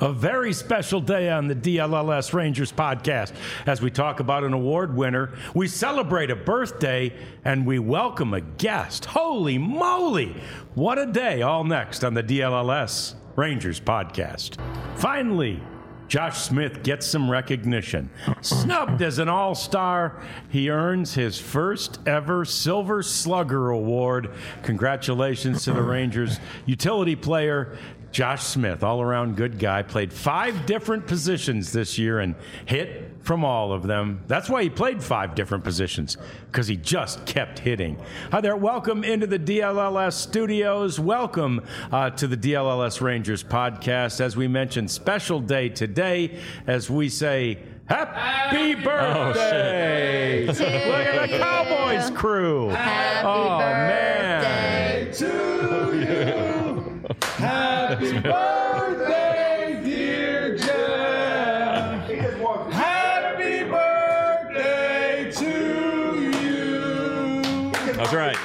A very special day on the DLLS Rangers podcast. As we talk about an award winner, we celebrate a birthday, and we welcome a guest. Holy moly! What a day. All next on the DLLS Rangers podcast. Finally, Josh Smith gets some recognition. Snubbed as an all-star, he earns his first ever Silver Slugger Award. Congratulations to the Rangers utility player, Josh Smith, all-around good guy, played 5 different positions this year and hit from all of them. That's why he played 5 different positions, because he just kept hitting. Hi there. Welcome into the DLLS studios. Welcome to the DLLS Rangers podcast. As we mentioned, special day today as we say, Happy birthday! Look at the Cowboys crew. Happy birthday to you. Happy birthday, dear Jeff. Happy birthday to you. That's right.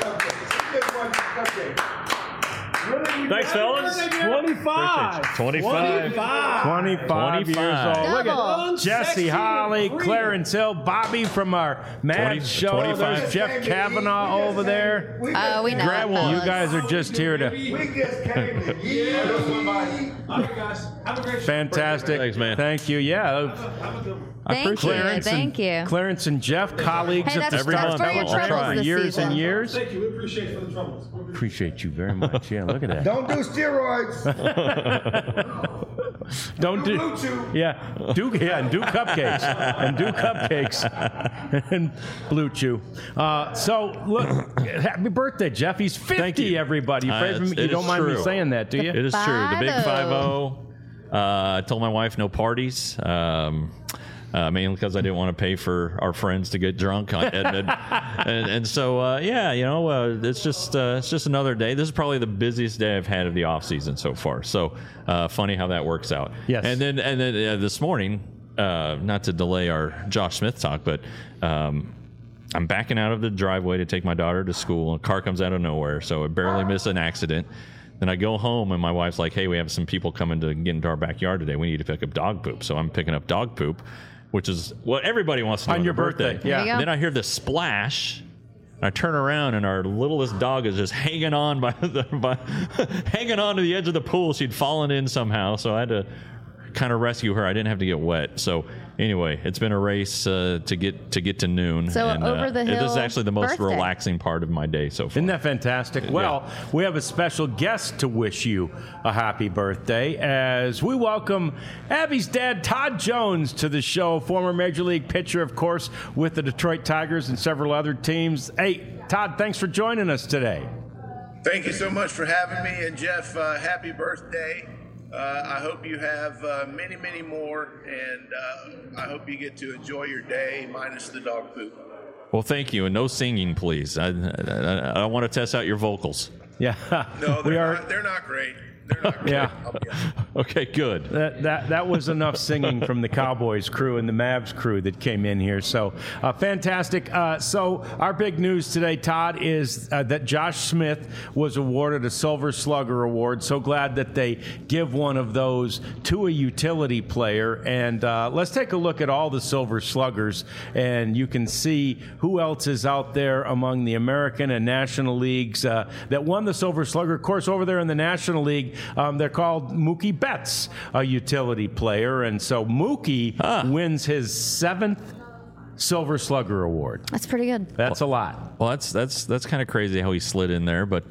Thanks, fellas. 25. 25 years old. Look at Jesse Holly, Clarence Hill, Bobby from our Mad show. 25. There's Jeff Kavanaugh over there. We know. You guys are just here to... We just came to you. Have a great Fantastic. Thanks, man. Thank you. Yeah. Thank you. Clarence and Jeff, colleagues Hey, at the that's Star for your Television troubles for this years season. and years. Thank you. We appreciate it for the troubles. Appreciate you very much. Yeah, look at that. Don't do steroids. Don't do Blue Chew. and do cupcakes and Blue Chew. So look, happy birthday, Jeff. He's 50. Thank you. Everybody, you don't mind me saying that, do you? It is true. The big 5-0. 5-0. I told my wife no parties. Mainly because I didn't want to pay for our friends to get drunk on Edmund, and so it's just another day. This is probably the busiest day I've had of the off season so far. So funny how that works out. Yes. And then this morning, not to delay our Josh Smith talk, but I'm backing out of the driveway to take my daughter to school, and a car comes out of nowhere, so I barely miss an accident. Then I go home, and my wife's like, "Hey, we have some people coming to get into our backyard today. We need to pick up dog poop." So I'm picking up dog poop, which is what everybody wants to do On your birthday. Yeah. There you go. Then I hear this splash. I turn around, and our littlest dog is just hanging on hanging on to the edge of the pool. She'd fallen in somehow, so I had to kind of rescue her. I didn't have to get wet. So anyway, it's been a race to get to noon. So and, over the hill this is actually the most birthday. relaxing part of my day so far. Isn't that fantastic? Well, we have a special guest to wish you a happy birthday as we welcome Abby's dad, Todd Jones, to the show. Former Major League pitcher, of course, with the Detroit Tigers and several other teams. Hey, Todd, thanks for joining us today. Thank you so much for having me. And Jeff, happy birthday. I hope you have many, many more, and I hope you get to enjoy your day minus the dog poop. Well, thank you, and no singing, please. I want to test out your vocals. Yeah. No, they're not great. They're not great. Yeah. I'll be honest. Okay, good. That was enough singing from the Cowboys crew and the Mavs crew that came in here. So fantastic. So our big news today, Todd, is that Josh Smith was awarded a Silver Slugger Award. So glad that they give one of those to a utility player. And let's take a look at all the Silver Sluggers, and you can see who else is out there among the American and National Leagues that won the Silver Slugger. Of course, over there in the National League, they're called Mookie Betts, a utility player. And so Mookie wins his 7th Silver Slugger Award. That's pretty good. That's a lot. Well, that's kind of crazy how he slid in there, but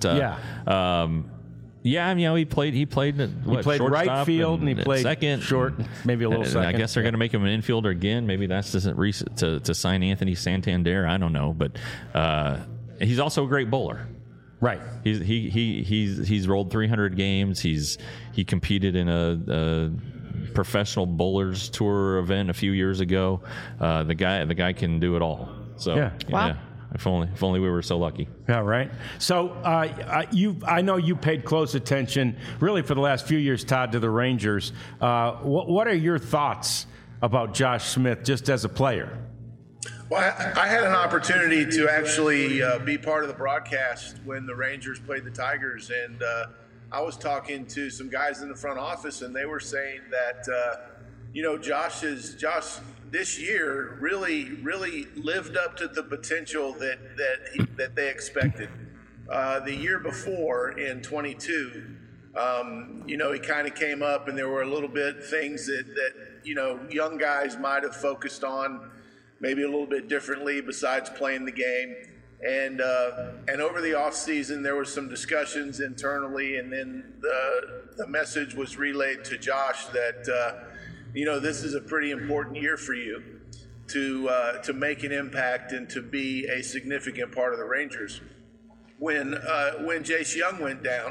he played. He played right field and he played second, short, maybe a little and second. I guess they're going to make him an infielder again. Maybe that's just to sign Anthony Santander. I don't know, but he's also a great bowler. Right. He's rolled 300 games. He competed in a professional bowlers tour event a few years ago. The guy can do it all. So Yeah. Wow. Yeah. If only we were so lucky. Yeah, right. So I know you paid close attention, really, for the last few years, Todd, to the Rangers. What are your thoughts about Josh Smith just as a player? Well, I had an opportunity to actually be part of the broadcast when the Rangers played the Tigers, and I was talking to some guys in the front office, and they were saying that, Josh this year really lived up to the potential that they expected. The year before in 22, he kind of came up, and there were a little bit things that young guys might have focused on maybe a little bit differently besides playing the game. And over the off season, there were some discussions internally, and then the message was relayed to Josh that this is a pretty important year for you to make an impact and to be a significant part of the Rangers. When Josh Young went down,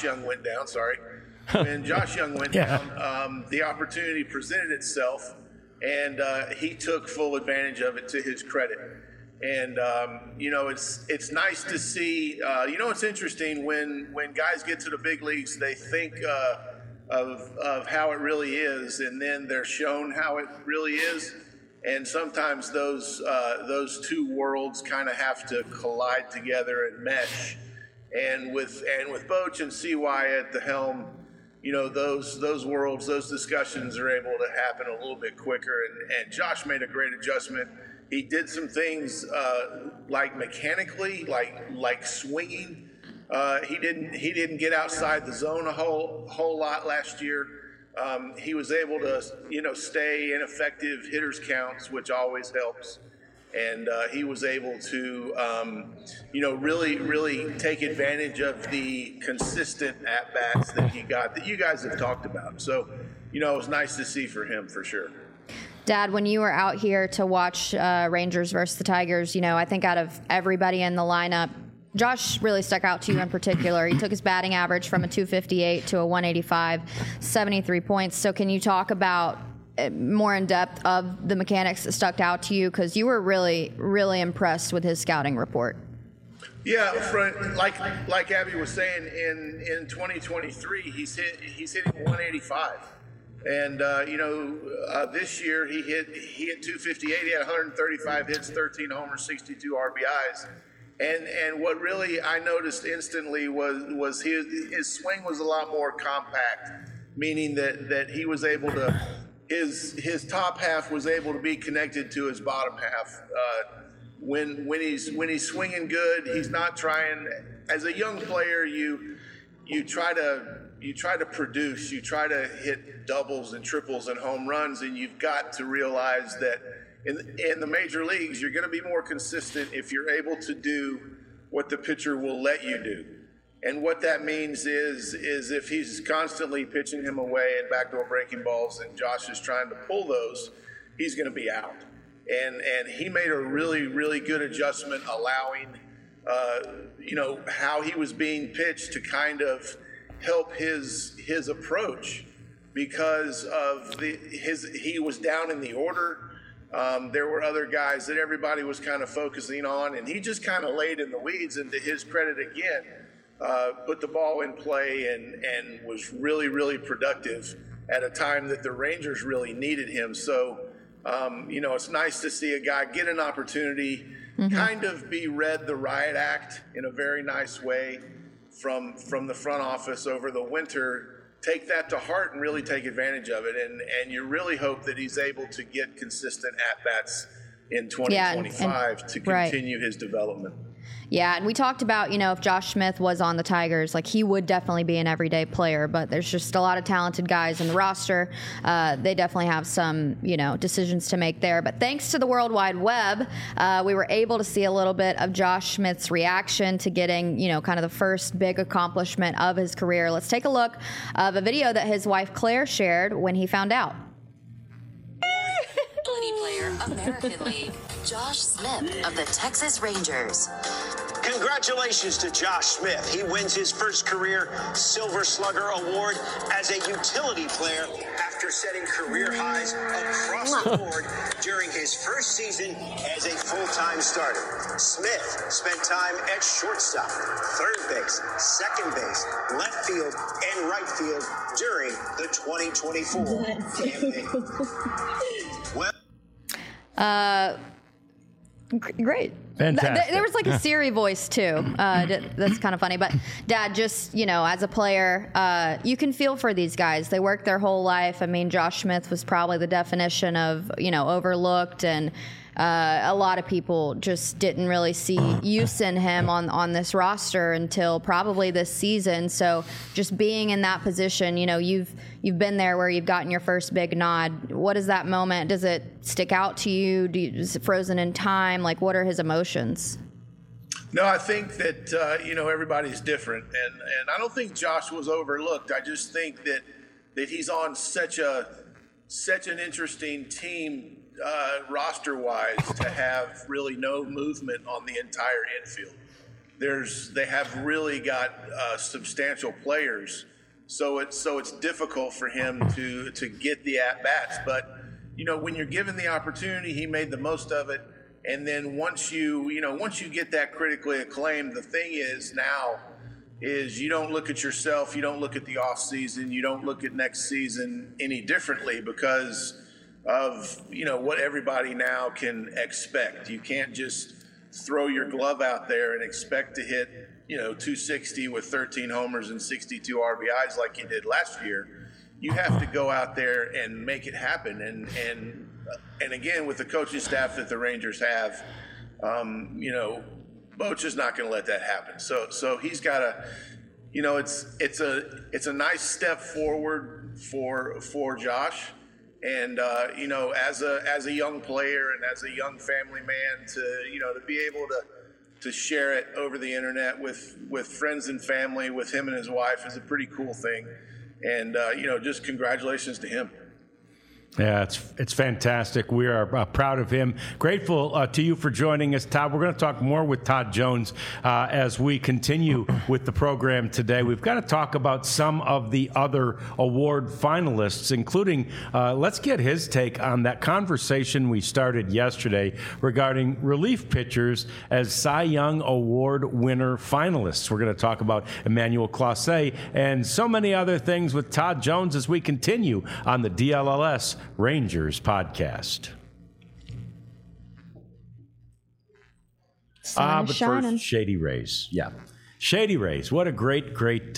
the opportunity presented itself, and he took full advantage of it to his credit. And it's nice to see. It's interesting when guys get to the big leagues, they think of how it really is, and then they're shown how it really is. And sometimes those two worlds kind of have to collide together and mesh. And with Boch and CY at the helm, those worlds, those discussions are able to happen a little bit quicker. And Josh made a great adjustment. He did some things like mechanically, like swinging. He didn't get outside the zone a whole lot last year. He was able to stay in effective hitters counts, which always helps. And he was able to really take advantage of the consistent at bats that he got that you guys have talked about. So it was nice to see for him for sure. Dad, when you were out here to watch Rangers versus the Tigers, I think out of everybody in the lineup, Josh really stuck out to you in particular. He took his batting average from a 258 to a 185, 73 points. So can you talk about more in depth of the mechanics that stuck out to you? Because you were really, really impressed with his scouting report. Yeah, like Abby was saying, in 2023, he's hitting 185. And this year he hit 258. He had 135 hits, 13 homers, 62 RBIs. And what really I noticed instantly was his swing was a lot more compact, meaning that he was able to his top half was able to be connected to his bottom half. When he's swinging good, he's not trying. As a young player, you try to produce, you try to hit doubles and triples and home runs, and you've got to realize that in the major leagues, you're going to be more consistent if you're able to do what the pitcher will let you do. And what that means is if he's constantly pitching him away and backdoor breaking balls and Josh is trying to pull those, he's going to be out. And he made a really, really good adjustment, allowing how he was being pitched to kind of help his approach because of he was down in the order. There were other guys that everybody was kind of focusing on, and he just kind of laid in the weeds, and to his credit again, put the ball in play and was really, really productive at a time that the Rangers really needed him. So, it's nice to see a guy get an opportunity, kind of be read the riot act in a very nice way from the front office over the winter, take that to heart and really take advantage of it. And you really hope that he's able to get consistent at-bats in 2025 to continue his development. Yeah, and we talked about, if Josh Smith was on the Tigers, he would definitely be an everyday player, but there's just a lot of talented guys in the roster. They definitely have some, decisions to make there. But thanks to the World Wide Web, we were able to see a little bit of Josh Smith's reaction to getting, kind of the first big accomplishment of his career. Let's take a look of a video that his wife Claire shared when he found out. Utility player, American League, Josh Smith of the Texas Rangers. Congratulations to Josh Smith. He wins his first career Silver Slugger Award as a utility player after setting career highs across the board during his first season as a full-time starter. Smith spent time at shortstop, third base, second base, left field, and right field during the 2024 campaign. Great. Fantastic. There was like a Siri voice too. That's kind of funny. But Dad, just, as a player, you can feel for these guys. They work their whole life. I mean, Josh Smith was probably the definition of, overlooked, and a lot of people just didn't really see use in him on this roster until probably this season. So just being in that position, you've been there where you've gotten your first big nod. What is that moment? Does it stick out to you? Is it frozen in time? Like, what are his emotions? No, I think that, everybody's different. And I don't think Josh was overlooked. I just think that he's on such an interesting team roster-wise to have really no movement on the entire infield. They have really got substantial players, so it's difficult for him to get the at-bats. But when you're given the opportunity, he made the most of it. And then once you get that critically acclaimed, the thing is now is you don't look at yourself, you don't look at the off season, you don't look at next season any differently because of what everybody now can expect. You can't just throw your glove out there and expect to hit 260 with 13 homers and 62 RBIs like you did last year. You have to go out there and make it happen. And again, with the coaching staff that the Rangers have, Boch is not going to let that happen. So he's got to, it's a nice step forward for Josh. And as a young player and as a young family man, to be able to share it over the internet with friends and family, with him and his wife, is a pretty cool thing. And just congratulations to him. Yeah, it's fantastic. We are proud of him. Grateful to you for joining us, Todd. We're going to talk more with Todd Jones as we continue with the program today. We've got to talk about some of the other award finalists, including let's get his take on that conversation we started yesterday regarding relief pitchers as Cy Young Award winner finalists. We're going to talk about Emmanuel Clase and so many other things with Todd Jones as we continue on the DLLS Rangers podcast. But first, Shady Rays. Yeah. Shady Rays. What a great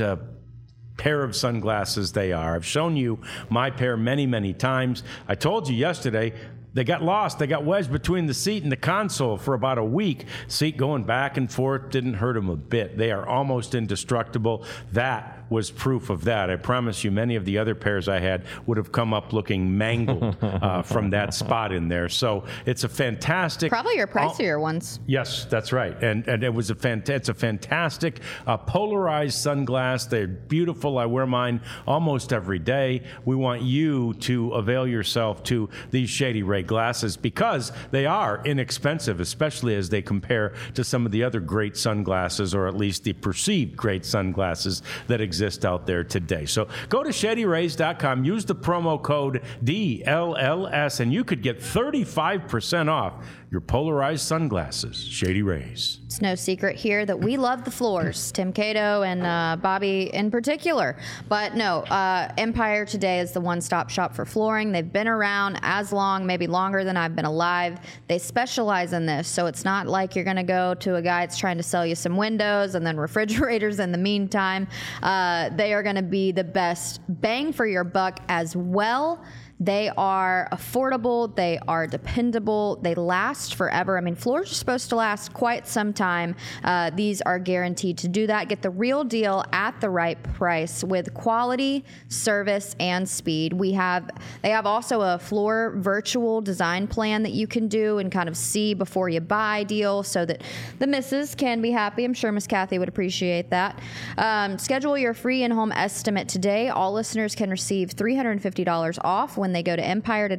pair of sunglasses they are. I've shown you my pair many, many times. I told you yesterday, they got lost. They got wedged between the seat and the console for about a week. Seat going back and forth didn't hurt them a bit. They are almost indestructible. That was proof of that. I promise you, many of the other pairs I had would have come up looking mangled from that spot in there. So it's a fantastic... Probably your pricier ones. Yes, that's right. And it was it's a fantastic polarized sunglass. They're beautiful. I wear mine almost every day. We want you to avail yourself to these Shady Ray glasses because they are inexpensive, especially as they compare to some of the other great sunglasses, or at least the perceived great sunglasses that exist out there today. So go to ShadyRays.com, use the promo code DLLS, and you could get 35% off your polarized sunglasses. Shady Rays. It's no secret here that we love the floors, Tim Cato and Bobby in particular. But no, Empire today is the one-stop shop for flooring. They've been around as long, maybe longer than I've been alive. They specialize in this, so it's not like you're going to go to a guy that's trying to sell you some windows and then refrigerators in the meantime. They are going to be the best bang for your buck as well. They are affordable. They are dependable. They last forever. I mean, floors are supposed to last quite some time. These are guaranteed to do that. Get the real deal at the right price with quality, service, and speed. They have also a floor virtual design plan that you can do and kind of see before you buy deal so that the missus can be happy. I'm sure Miss Kathy would appreciate that. Schedule your free in-home estimate today. All listeners can receive $350 off when they go to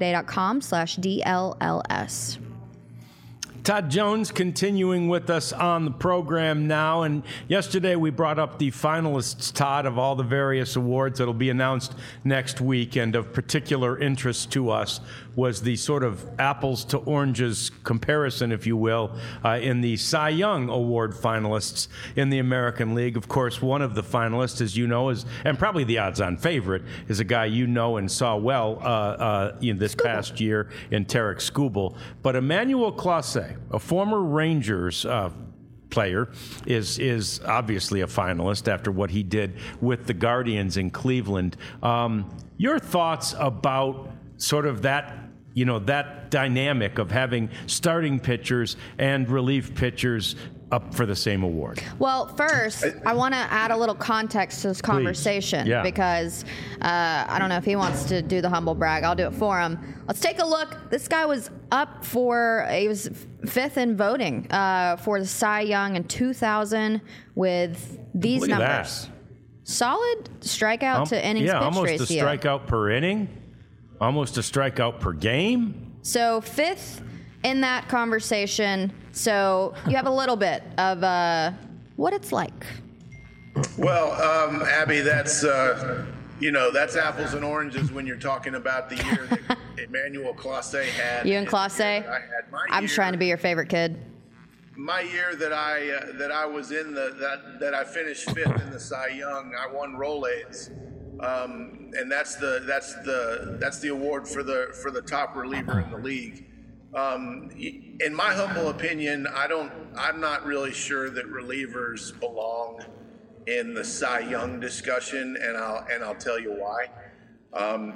empiretoday.com/DLLS. Todd Jones continuing with us on the program now. And yesterday we brought up the finalists, Todd, of all the various awards that will be announced next week. And of particular interest to us was the sort of apples to oranges comparison, if you will, in the Cy Young Award finalists in the American League. Of course, one of the finalists, as you know, and probably the odds-on favorite, is a guy you know and saw well in this past year in Tarik Skubal. But Emmanuel Clase, way, a former Rangers player is obviously a finalist after what he did with the Guardians in Cleveland. Your thoughts about sort of that, that dynamic of having starting pitchers and relief pitchers up for the same award? Well, first, I want to add a little context to this conversation because I don't know if he wants to do the humble brag. I'll do it for him. Let's take a look. This guy was he was fifth in voting for the Cy Young in 2000 with these Look at numbers. that. Solid strikeout to innings pitched almost ratio. a strikeout per inning, almost a strikeout per game. So fifth in that conversation. So you have a little bit of what it's like. Well, Abby, that's that's apples and oranges when you're talking about the year that Emmanuel Clase had. You and Clase? I'm trying to be your favorite kid. My year that I was in that I finished fifth in the Cy Young, I won Rolaids, and that's the award for the top reliever in the league. In my humble opinion, I'm not really sure that relievers belong in the Cy Young discussion, and I'll tell you why.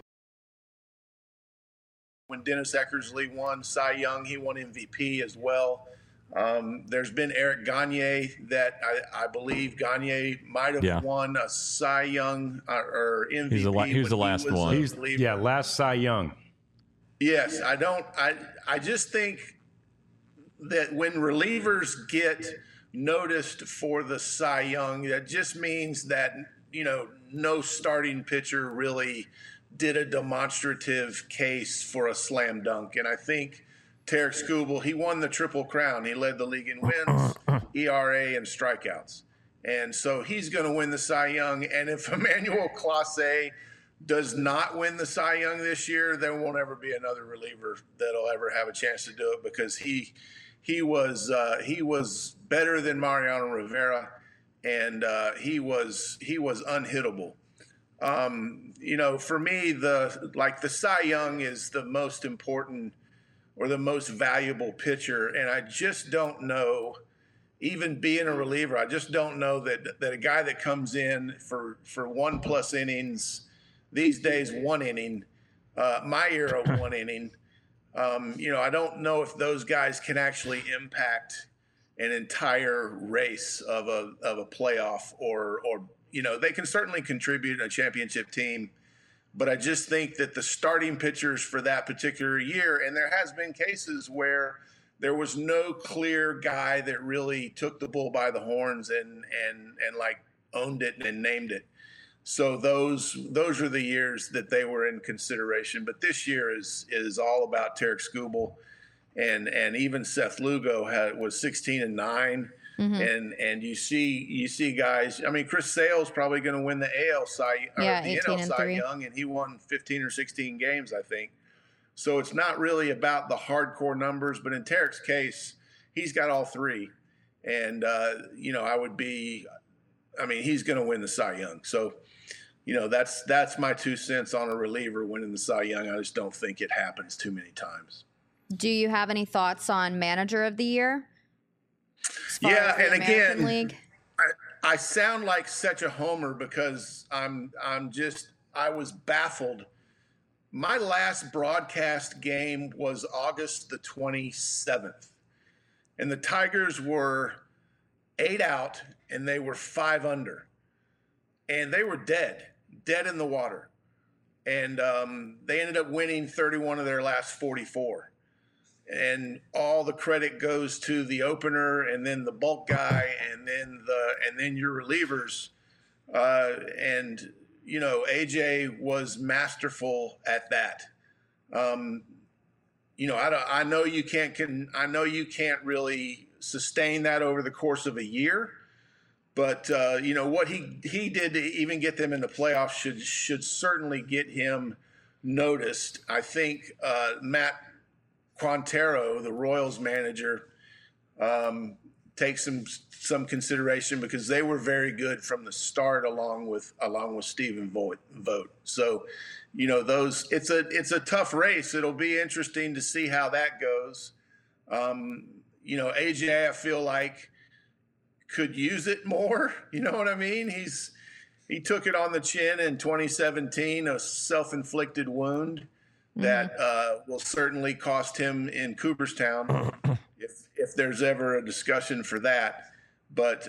When Dennis Eckersley won Cy Young, he won MVP as well. There's been Eric Gagne that I believe Gagne might have won a Cy Young or MVP. He was the last one. Last Cy Young. Yes, I just think that when relievers get noticed for the Cy Young, that just means that, no starting pitcher really did a demonstrative case for a slam dunk. And I think Tarek Skubal, he won the Triple Crown. He led the league in wins, ERA, and strikeouts. And so he's going to win the Cy Young. And if Emmanuel Clase does not win the Cy Young this year, there won't ever be another reliever that'll ever have a chance to do it, because he was better than Mariano Rivera, and he was unhittable. For me, the Cy Young is the most important or the most valuable pitcher, and I just don't know, even being a reliever, I just don't know that a guy that comes in for 1+ innings. These days, 1 inning, my era, 1 inning. I don't know if those guys can actually impact an entire race of a playoff, or they can certainly contribute in a championship team. But I just think that the starting pitchers for that particular year, and there has been cases where there was no clear guy that really took the bull by the horns and like owned it and named it. So those are the years that they were in consideration. But this year is all about Tarek Skubal, and even Seth Lugo was 16-9, and you see guys. I mean, Chris Sale's probably going to win the AL Cy or the NL Cy Young, and he won 15 or 16 games, I think. So it's not really about the hardcore numbers, but in Tarek's case, he's got all three, and he's going to win the Cy Young. So. That's my 2 cents on a reliever winning the Cy Young. I just don't think it happens too many times. Do you have any thoughts on Manager of the Year? Yeah, and again, I sound like such a homer because I was baffled. My last broadcast game was August the 27th, and the Tigers were 8 out, and they were 5 under, and they were dead in the water. And they ended up winning 31 of their last 44. And all the credit goes to the opener, and then the bulk guy, and then your relievers. AJ was masterful at that. I know you can't really sustain that over the course of a year. But what he did to even get them in the playoffs should certainly get him noticed. I think Matt Quintero, the Royals manager, takes some consideration because they were very good from the start, along with Stephen Vogt. So, it's a tough race. It'll be interesting to see how that goes. AJ, I feel like could use it more. You know what I mean? He took it on the chin in 2017, a self-inflicted wound that will certainly cost him in Cooperstown if there's ever a discussion for that. But,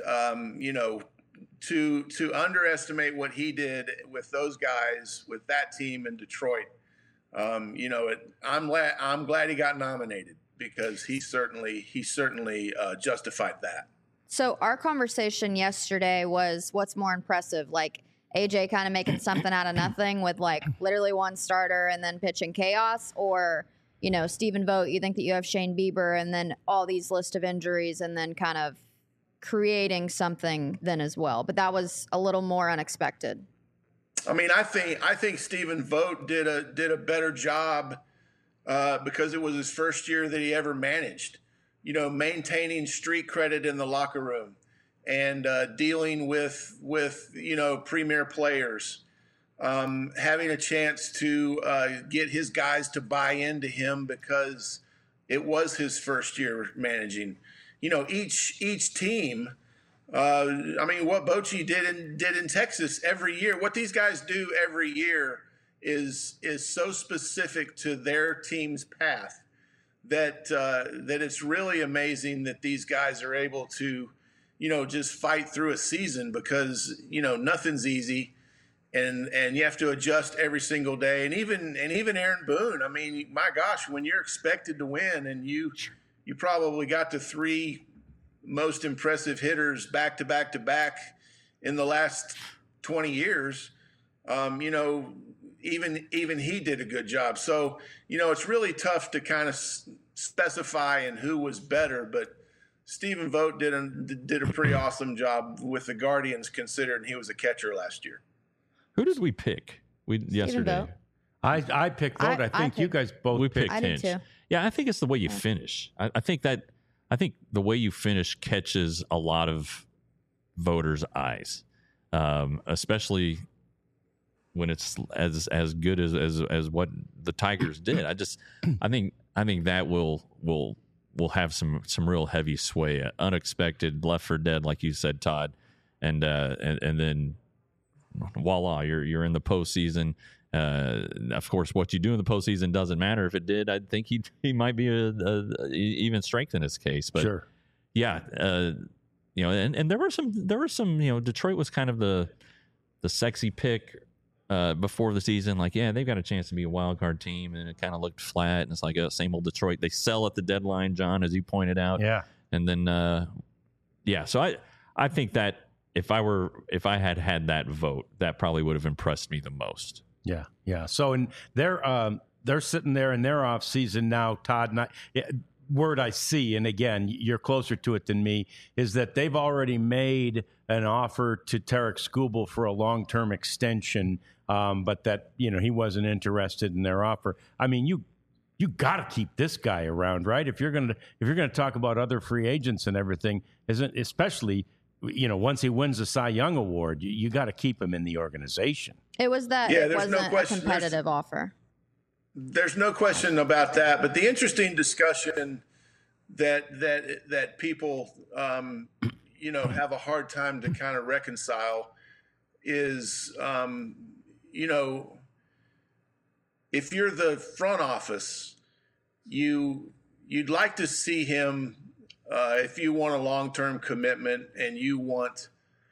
to underestimate what he did with those guys, with that team in Detroit, I'm glad he got nominated because he certainly justified that. So our conversation yesterday was what's more impressive, like AJ kind of making something out of nothing with like literally one starter and then pitching chaos, or, Stephen Vogt, you think that you have Shane Bieber and then all these list of injuries and then kind of creating something then as well. But that was a little more unexpected. I mean, I think Stephen Vogt did a better job because it was his first year that he ever managed. Maintaining street credit in the locker room and dealing with premier players, having a chance to get his guys to buy into him because it was his first year managing. Each team. What Bochy did in Texas every year, what these guys do every year is so specific to their team's path that it's really amazing that these guys are able to, just fight through a season because, nothing's easy and you have to adjust every single day. And even Aaron Boone, I mean, my gosh, when you're expected to win and you probably got the three most impressive hitters back to back to back in the last 20 years, even he did a good job. So, it's really tough to kind of specify in who was better, but Stephen Vogt did a pretty awesome job with the Guardians, considering he was a catcher last year. Who did we pick yesterday? I picked Vogt. I think you guys both picked Hinch. I did too. Yeah, I think it's the way you finish. I think the way you finish catches a lot of voters' eyes, especially when it's as good as what the Tigers did. I think that will have some real heavy sway, unexpected, left for dead, like you said, Todd, and then voila, you're in the postseason. Of course, what you do in the postseason doesn't matter. If it did, I think he might be even strengthen his case. But sure, yeah, and there were some. Detroit was kind of the sexy pick before the season. Like, yeah, they've got a chance to be a wild card team, and it kind of looked flat. And it's like same old Detroit. They sell at the deadline, John, as you pointed out. Yeah, and then So I think that if I had that vote, that probably would have impressed me the most. Yeah. So they're sitting there in their off season now, Todd. And word I see, and again, you're closer to it than me, is that they've already made an offer to Tarek Skubal for a long-term extension, but that he wasn't interested in their offer. I mean, you got to keep this guy around, right? If you're gonna talk about other free agents and everything, especially once he wins the Cy Young Award, you got to keep him in the organization. It was that it wasn't a competitive offer. There's no question about that. But the interesting discussion that people have a hard time to kind of reconcile is if you're the front office, you'd like to see him. If you want a long-term commitment and you want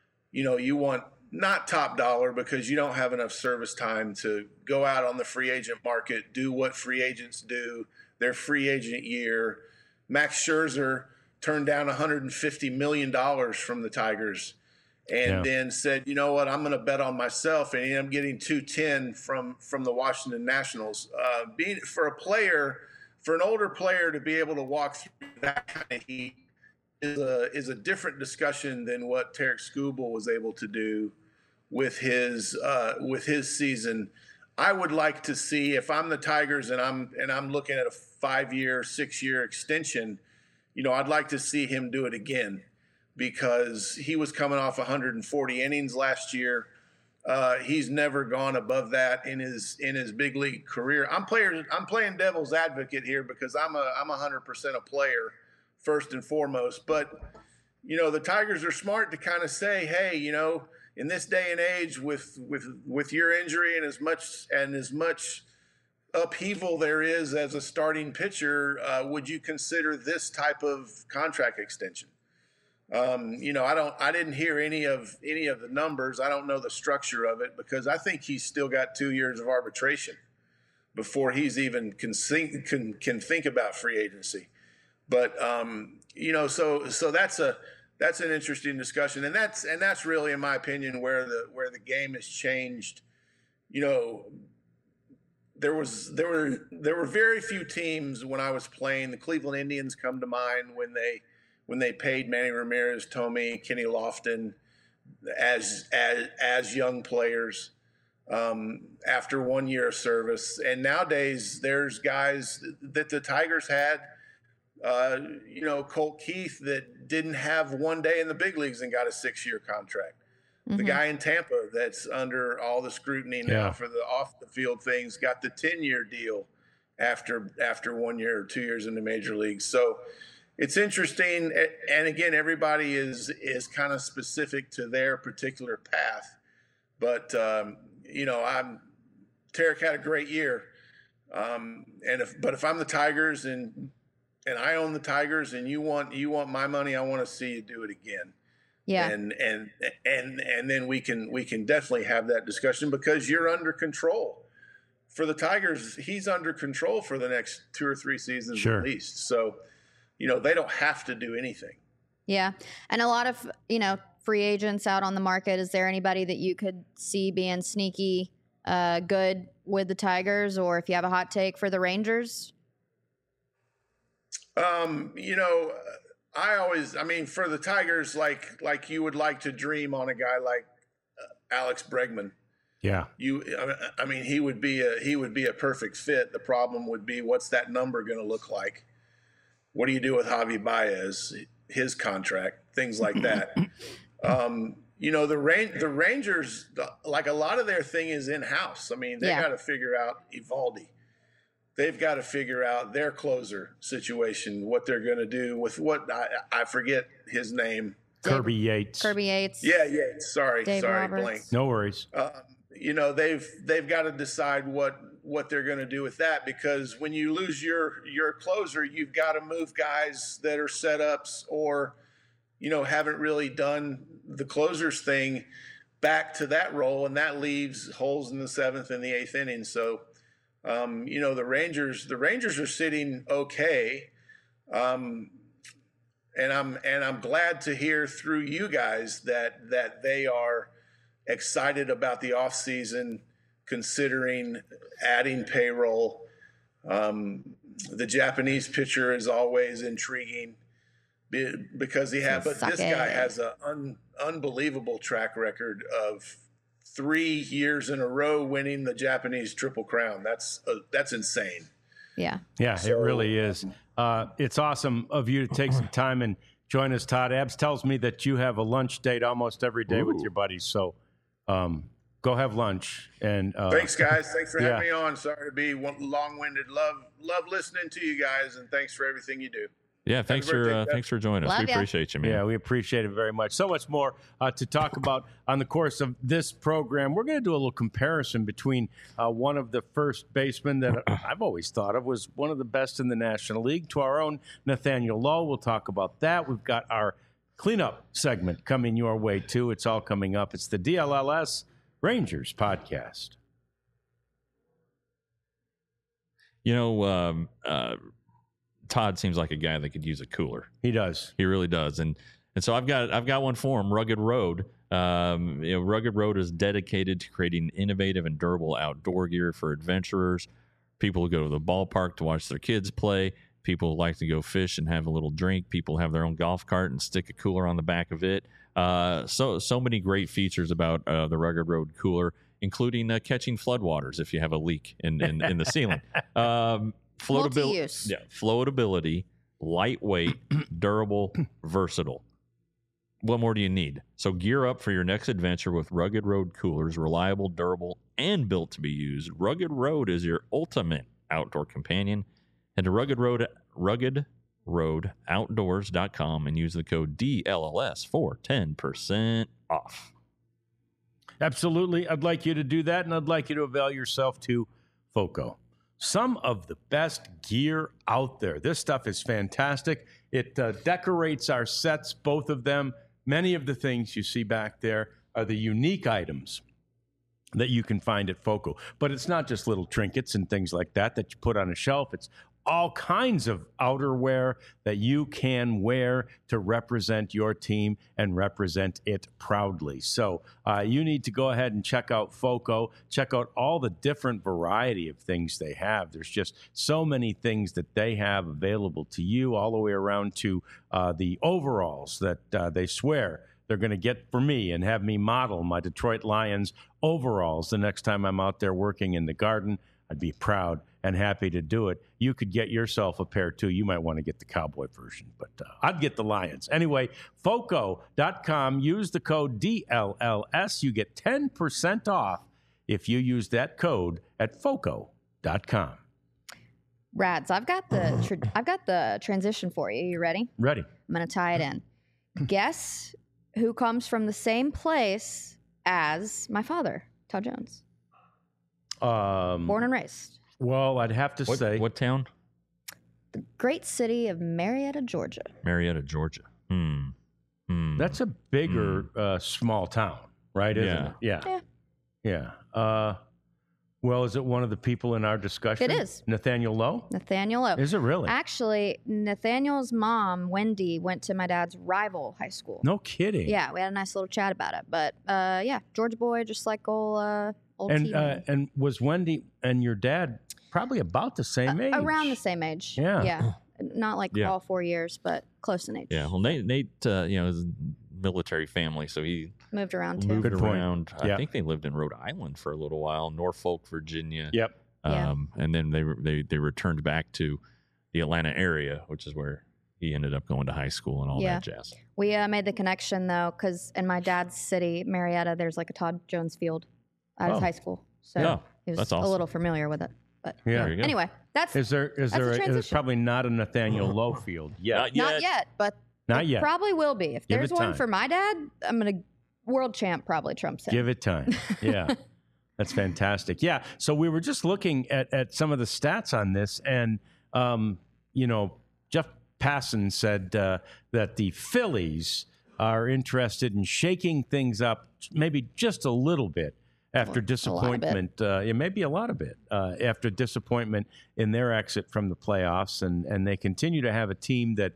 not top dollar because you don't have enough service time to go out on the free agent market, do what free agents do, their free agent year. Max Scherzer turned down $150 million from the Tigers and then said, you know what, I'm going to bet on myself. And I'm getting $210 from the Washington Nationals. For an older player to be able to walk through that kind of heat is a different discussion than what Tarek Skubal was able to do with his season. I would like to see, if I'm the Tigers and I'm looking at a 5-year, 6-year extension, I'd like to see him do it again because he was coming off 140 innings last year. He's never gone above that in his big league career. I'm playing devil's advocate here because I'm 100% a player first and foremost. But, the Tigers are smart to kind of say, hey, in this day and age with your injury and as much upheaval there is as a starting pitcher, would you consider this type of contract extension? I didn't hear any of the numbers. I don't know the structure of it because I think he's still got 2 years of arbitration before he's even can think about free agency. But so that's an interesting discussion, and that's really, in my opinion, where the game has changed. There were very few teams when I was playing. The Cleveland Indians come to mind when they paid Manny Ramirez, Tommy, Kenny Lofton as young players after 1 year of service. And nowadays there's guys that the Tigers had, Colt Keith, that didn't have 1 day in the big leagues and got a 6-year contract. Mm-hmm. The guy in Tampa that's under all the scrutiny now for the off the field things got the 10-year deal after 1 year or 2 years in the major leagues. So it's interesting, and again, everybody is kind of specific to their particular path. But Tarek had a great year, but if I'm the Tigers and I own the Tigers, and you want my money, I want to see you do it again. Yeah, and then we can definitely have that discussion because you're under control. For the Tigers, he's under control for the next 2 or 3 seasons at least. So. They don't have to do anything. Yeah. And a lot of, free agents out on the market. Is there anybody that you could see being sneaky good with the Tigers, or if you have a hot take for the Rangers? For the Tigers, like you would like to dream on a guy like Alex Bregman. Yeah. He would be a perfect fit. The problem would be, what's that number going to look like? What do you do with Javi Baez, his contract, things like that? The Rangers, like a lot of their thing is in-house. They got to figure out Eovaldi. They've got to figure out their closer situation, what they're going to do with I forget his name. Kirby Yates. Yeah, Yates. Sorry, blank. No worries. They've got to decide what they're going to do with that, because when you lose your closer, you've got to move guys that are setups or, haven't really done the closer's thing back to that role, and that leaves holes in the 7th and the 8th inning. So, the Rangers are sitting okay, and I'm glad to hear through you guys that they are excited about the offseason, considering adding payroll. The Japanese pitcher is always intriguing because this guy has an unbelievable track record of 3 years in a row winning the Japanese Triple Crown. That's insane. Yeah. Yeah, it really is. It's awesome of you to take some time and join us, Todd. Abs tells me that you have a lunch date almost every day with your buddies. So, go have lunch. And thanks, guys. Thanks for having me on. Sorry to be long-winded. Love listening to you guys, and thanks for everything you do. Yeah, thanks for joining us. We appreciate you, man. Yeah, we appreciate it very much. So much more to talk about on the course of this program. We're going to do a little comparison between one of the first basemen that I've always thought of was one of the best in the National League, to our own Nathaniel Lowe. We'll talk about that. We've got our cleanup segment coming your way, too. It's all coming up. It's the DLLS Rangers podcast. Todd seems like a guy that could use a cooler. He does. He really does. And so I've got one for him, Rugged Road. Rugged Road is dedicated to creating innovative and durable outdoor gear for adventurers, people who go to the ballpark to watch their kids play, people who like to go fish and have a little drink, people who have their own golf cart and stick a cooler on the back of it. So many great features about the Rugged Road cooler, including catching floodwaters if you have a leak in the ceiling. Floatability, lightweight, durable, versatile. What more do you need? So gear up for your next adventure with Rugged Road coolers, reliable, durable, and built to be used. Rugged Road is your ultimate outdoor companion. And to Rugged roadoutdoors.com and use the code DLLS for 10% off. Absolutely. I'd like you to do that, and I'd like you to avail yourself to FOCO. Some of the best gear out there. This stuff is fantastic. It decorates our sets, both of them. Many of the things you see back there are the unique items that you can find at FOCO. But it's not just little trinkets and things like that you put on a shelf. It's all kinds of outerwear that you can wear to represent your team and represent it proudly. So you need to go ahead and check out FOCO. Check out all the different variety of things they have. There's just so many things that they have available to you, all the way around to the overalls that they swear they're going to get for me and have me model my Detroit Lions overalls the next time I'm out there working in the Garden. I'd be proud and happy to do it. You could get yourself a pair, too. You might want to get the cowboy version, but I'd get the Lions. Anyway, FOCO.com. Use the code DLLS. You get 10% off if you use that code at FOCO.com. Rad. So I've got the transition for you. You ready? Ready. I'm going to tie it in. Guess who comes from the same place as my father, Todd Jones? Born and raised. Well, I'd have to say... What town? The great city of Marietta, Georgia. Marietta, Georgia. That's a bigger small town, right? Isn't it? Yeah. Well, is it one of the people in our discussion? It is. Nathaniel Lowe? Nathaniel Lowe. Is it really? Actually, Nathaniel's mom, Wendy, went to my dad's rival high school. No kidding. Yeah, we had a nice little chat about it. But, yeah, Georgia boy, just like old T-Man. And was Wendy and your dad probably about the same age? Around the same age. Yeah. Yeah. Not like all 4 years, but close in age. Yeah. Well, Nate is a military family, so he moved around too. Moved around. I think they lived in Rhode Island for a little while, Norfolk, Virginia. Yep. And then they returned back to the Atlanta area, which is where he ended up going to high school and all that jazz. We made the connection though, because in my dad's city, Marietta, there's like a Todd Jones Field at his high school, so he was a little familiar with it. But anyway, there's probably not a Nathaniel Lowe Field yet. Not yet, but not yet. Probably will be. If there's one for my dad, I'm gonna world champ probably trumps him. Give it time. Yeah. That's fantastic. Yeah. So we were just looking at some of the stats on this, and Jeff Passan said that the Phillies are interested in shaking things up maybe just a little bit after disappointment. Maybe a lot of it after disappointment in their exit from the playoffs, and they continue to have a team that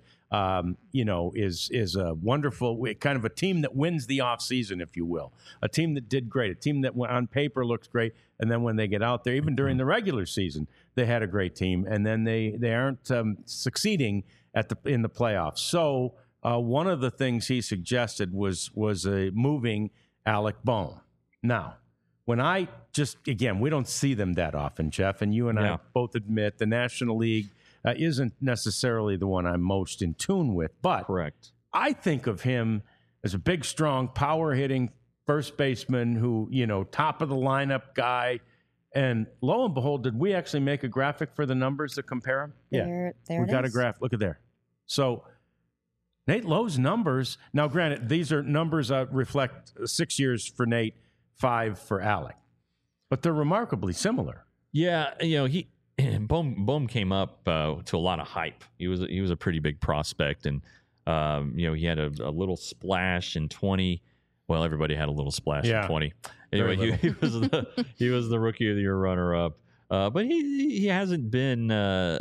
is a wonderful kind of a team that wins the offseason, if you will. A team that did great, a team that on paper looks great, and then when they get out there, even during the regular season, they had a great team, and then they aren't succeeding in the playoffs. So one of the things he suggested was moving Alec Bohm. Now, when we don't see them that often, Jeff, and you and I both admit the National League isn't necessarily the one I'm most in tune with, but correct. I think of him as a big, strong, power-hitting first baseman who, top of the lineup guy. And lo and behold, did we actually make a graphic for the numbers to compare him? There we got a graph. Look at there. So Nate Lowe's numbers, now granted, these are numbers reflect 6 years for Nate, 5 for Alec, but they're remarkably similar. Yeah, Bohm came up to a lot of hype. He was a pretty big prospect, and he had a little splash in 20. Well, everybody had a little splash in 20. Anyway, he was the rookie of the year runner-up, but he hasn't been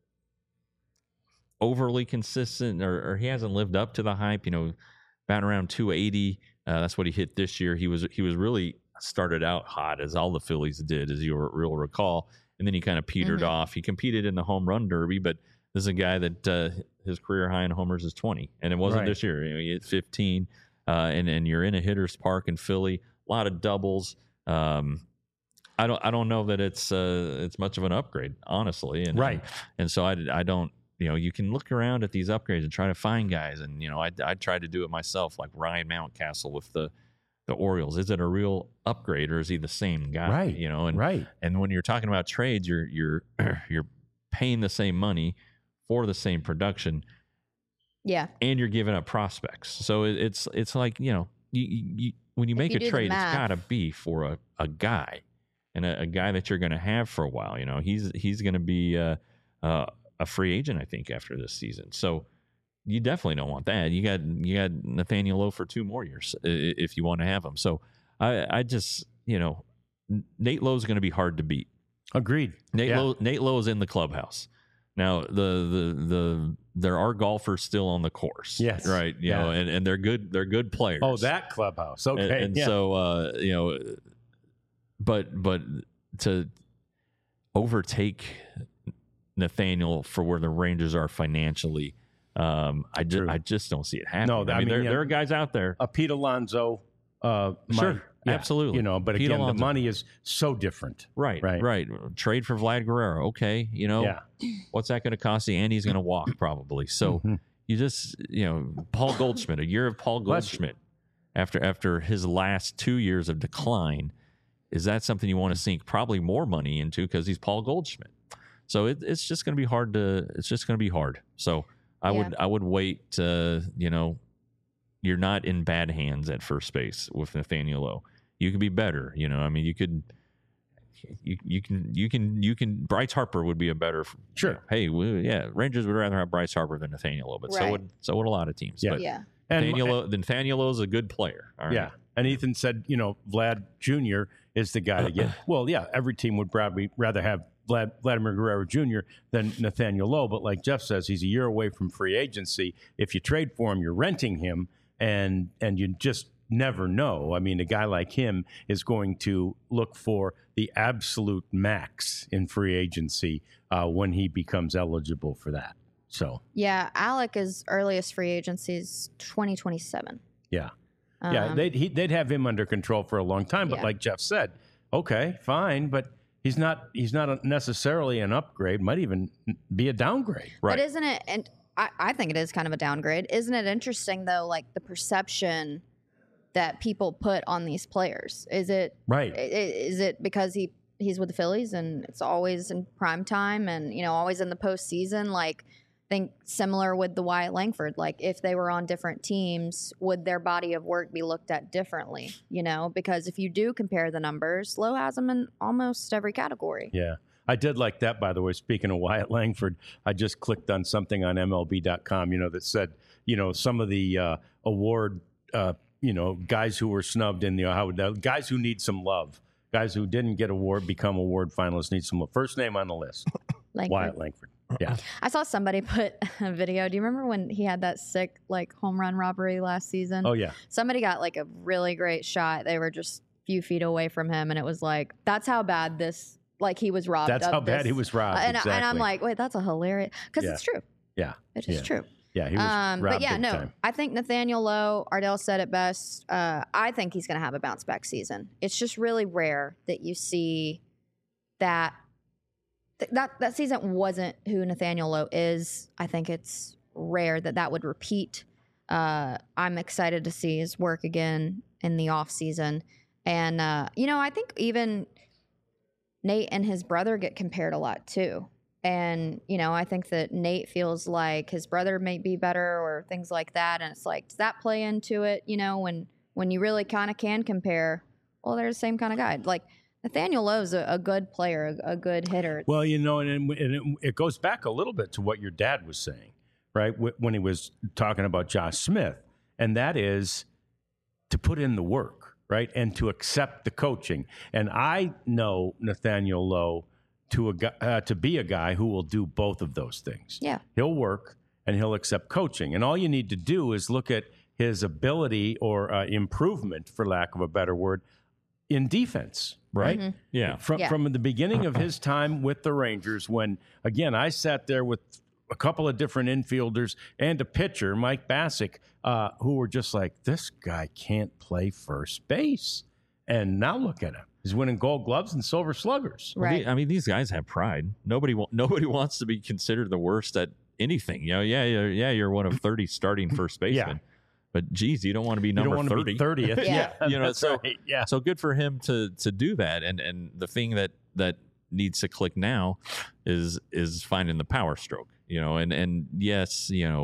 overly consistent, or he hasn't lived up to the hype. About around 280. That's what he hit this year. He was really started out hot, as all the Phillies did, as you'll recall. And then he kind of petered off. He competed in the home run derby, but this is a guy that his career high in homers is 20, and it wasn't this year. He hit 15, and you're in a hitter's park in Philly. A lot of doubles. I don't know that it's much of an upgrade, honestly. And so I don't. You can look around at these upgrades and try to find guys, and I tried to do it myself, like Ryan Mountcastle with the Orioles. Is it a real upgrade, or is he the same guy? Right. And when you're talking about trades, you're paying the same money for the same production. Yeah. And you're giving up prospects. So it's like, you when you make a trade, it's got to be for a guy, and a guy that you're going to have for a while. He's going to be a free agent, I think, after this season. So you definitely don't want that. You got Nathaniel Lowe for 2 more years if you want to have him. So I just, Nate Lowe's going to be hard to beat. Agreed. Nate Lowe is in the clubhouse. Now there are golfers still on the course. Yes. Right. And they're good players. Oh, that clubhouse. Okay. And so but to overtake Nathaniel for where the Rangers are financially, I just don't see it happening. No, I mean there are guys out there. Pete Alonso, Sure. absolutely. But Pete again, Alonso. the money is so different. Right. Trade for Vlad Guerrero. Okay. What's that going to cost you? And he's going to walk probably. So you just, Paul Goldschmidt, a year of Paul Goldschmidt after his last 2 years of decline. Is that something you want to sink probably more money into because he's Paul Goldschmidt? So it's just going to be hard So I would wait. You're not in bad hands at first base with Nathaniel Lowe. You could be better. You can. Bryce Harper would be a better. Sure. Rangers would rather have Bryce Harper than Nathaniel Lowe, but so would a lot of teams. Yeah. But Yeah. Nathaniel Lowe is a good player. All right. Yeah. And Ethan said, Vlad Jr. is the guy to get. Well, yeah, every team would probably rather have Vladimir Guerrero Jr. than Nathaniel Lowe. But like Jeff says, he's a year away from free agency. If you trade for him, you're renting him, and you just never know. I mean, a guy like him is going to look for the absolute max in free agency when he becomes eligible for that. So Yeah, Alec, earliest free agency is 2027. yeah. They'd have him under control for a long time. But Yeah. like Jeff said, okay, fine, but he's not necessarily an upgrade. Might even be a downgrade. Right. But isn't it? And I think it is kind of a downgrade. Isn't it interesting though? Like the perception that people put on these players. Is it Right. Is it because he's with the Phillies and it's always in prime time and always in the postseason? Like, think similar with the Wyatt Langford. Like, if they were on different teams, would their body of work be looked at differently? Because if you do compare the numbers, Lowe has them in almost every category. Yeah. I did like that, by the way. Speaking of Wyatt Langford, I just clicked on something on MLB.com, that said, some of the award, guys who were snubbed in the guys who need some love, guys who didn't get become award finalists need some love. First name on the list, Langford. Wyatt Langford. Yeah. I saw somebody put a video. Do you remember when he had that sick home run robbery last season? Oh yeah. Somebody got a really great shot. They were just a few feet away from him, and it was that's how bad this he was robbed. That's how bad he was robbed. Exactly. And I'm like, wait, that's a hilarious because it's true. Yeah. It is true. Yeah, he was robbed but yeah, big no, time. I think Nathaniel Lowe, Ardell said it best. I think he's going to have a bounce back season. It's just really rare that you see that season wasn't who Nathaniel Lowe is. I think it's rare that would repeat. I'm excited to see his work again in the off season. And, I think even Nate and his brother get compared a lot too. And, I think that Nate feels like his brother may be better or things like that. And it's does that play into it? When you really kind of can compare, well, they're the same kind of guy. Nathaniel Lowe's a good player, a good hitter. Well, and it goes back a little bit to what your dad was saying, right? When he was talking about Josh Smith. And that is to put in the work, right? And to accept the coaching. And I know Nathaniel Lowe to be a guy who will do both of those things. Yeah. He'll work and he'll accept coaching. And all you need to do is look at his ability or improvement, for lack of a better word, in defense, right? Mm-hmm. Yeah. From the beginning of his time with the Rangers, when, again, I sat there with a couple of different infielders and a pitcher, Mike Bassick, who were just like, this guy can't play first base. And now look at him. He's winning Gold Gloves and Silver Sluggers. Right. These guys have pride. Nobody wants to be considered the worst at anything. You're one of 30 starting first basemen. Yeah. But geez, you don't want to be number 30. 30th. Yeah. That's right. Yeah. So good for him to do that. And the thing that needs to click now is finding the power stroke. and yes,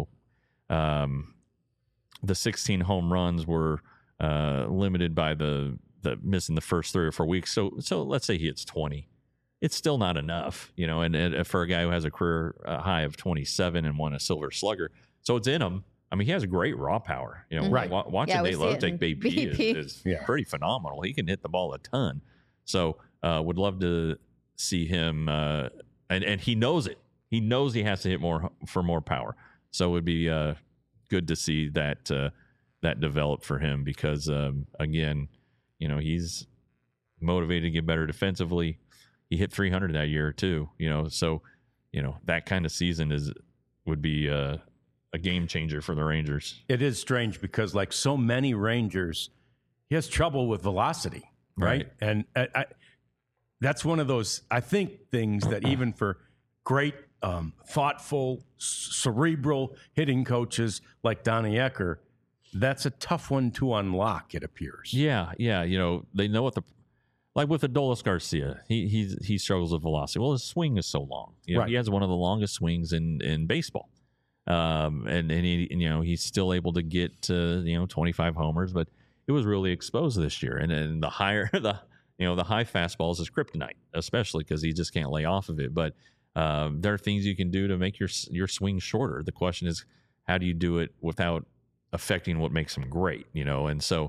the 16 home runs were limited by the missing the first 3 or 4 weeks. So let's say he hits 20. It's still not enough, and for a guy who has a career high of 27 and won a Silver Slugger. So it's in him. I mean, he has great raw power. Right. Watching Nate Lowe take BP is Yeah. pretty phenomenal. He can hit the ball a ton. So would love to see him, and he knows it. He knows he has to hit more for more power. So it would be good to see that that develop for him because, again, he's motivated to get better defensively. He hit 300 that year too, so that kind of season would be a game changer for the Rangers. It is strange because, like so many Rangers, he has trouble with velocity, right? And that's one of those, I think, things that even for great, thoughtful, cerebral hitting coaches like Donnie Ecker, that's a tough one to unlock, it appears. Yeah. They know like with Adolis Garcia, he struggles with velocity. Well, his swing is so long. Right. He has one of the longest swings in baseball. And he's still able to get to 25 homers, but it was really exposed this year. And the higher the high fastball is his kryptonite, especially because he just can't lay off of it. But there are things you can do to make your swing shorter. The question is, how do you do it without affecting what makes him great? And so.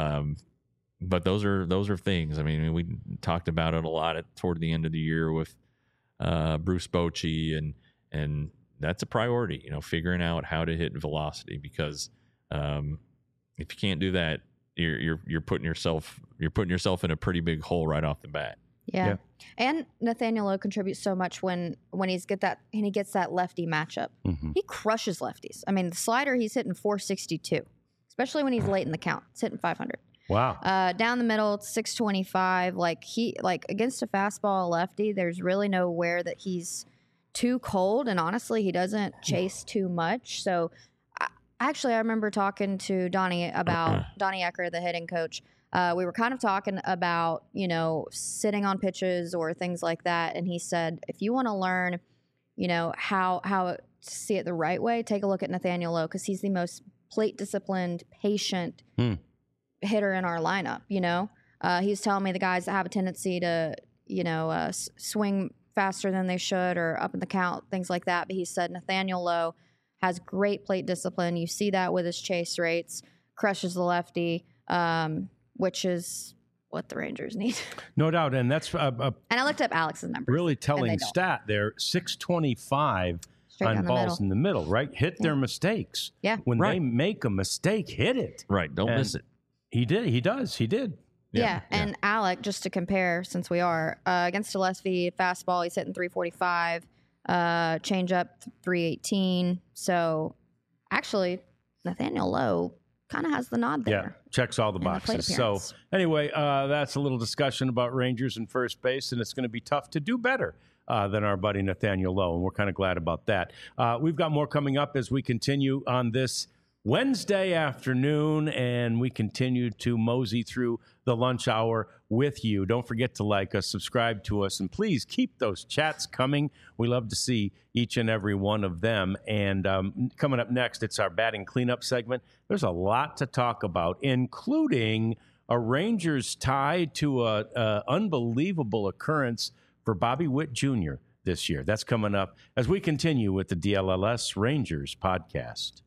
But those are things. I mean, we talked about it a lot toward the end of the year with Bruce Bochy, and that's a priority. Figuring out how to hit velocity because if you can't do that, you're putting yourself in a pretty big hole right off the bat. Yeah. And Nathaniel Lowe contributes so much when he gets that lefty matchup. Mm-hmm. He crushes lefties. I mean, the slider he's hitting 462, especially when he's late in the count. It's hitting 500. Wow. Down the middle, it's 625. Like against a fastball lefty, there's really nowhere that he's too cold, and honestly, he doesn't chase too much. So, I remember talking to Donnie Ecker, the hitting coach. We were kind of talking about sitting on pitches or things like that, and he said if you want to learn, how to see it the right way, take a look at Nathaniel Lowe because he's the most plate disciplined, patient hitter in our lineup. He's telling me the guys that have a tendency to swing faster than they should or up in the count, things like that. But he said Nathaniel Lowe has great plate discipline. You see that with his chase rates, crushes the lefty, which is what the Rangers need. No doubt. And that's and I looked up Alex's numbers. really telling stat there. 625 on balls in the middle, right? Hit their mistakes. Yeah. When they make a mistake, hit it. Right. Don't miss it. He did. He does. He did. Yeah. And Alec, just to compare, since we are against a lefty fastball, he's hitting 345, change up 318. So actually, Nathaniel Lowe kind of has the nod there. Yeah, checks all the boxes. So anyway, that's a little discussion about Rangers and first base, and it's going to be tough to do better than our buddy Nathaniel Lowe, and we're kind of glad about that. We've got more coming up as we continue on this Wednesday afternoon, and we continue to mosey through the lunch hour with you. Don't forget to like us, subscribe to us, and please keep those chats coming. We love to see each and every one of them. And coming up next, it's our batting cleanup segment. There's a lot to talk about, including a Rangers tie to an unbelievable occurrence for Bobby Witt Jr. this year. That's coming up as we continue with the DLLS Rangers podcast.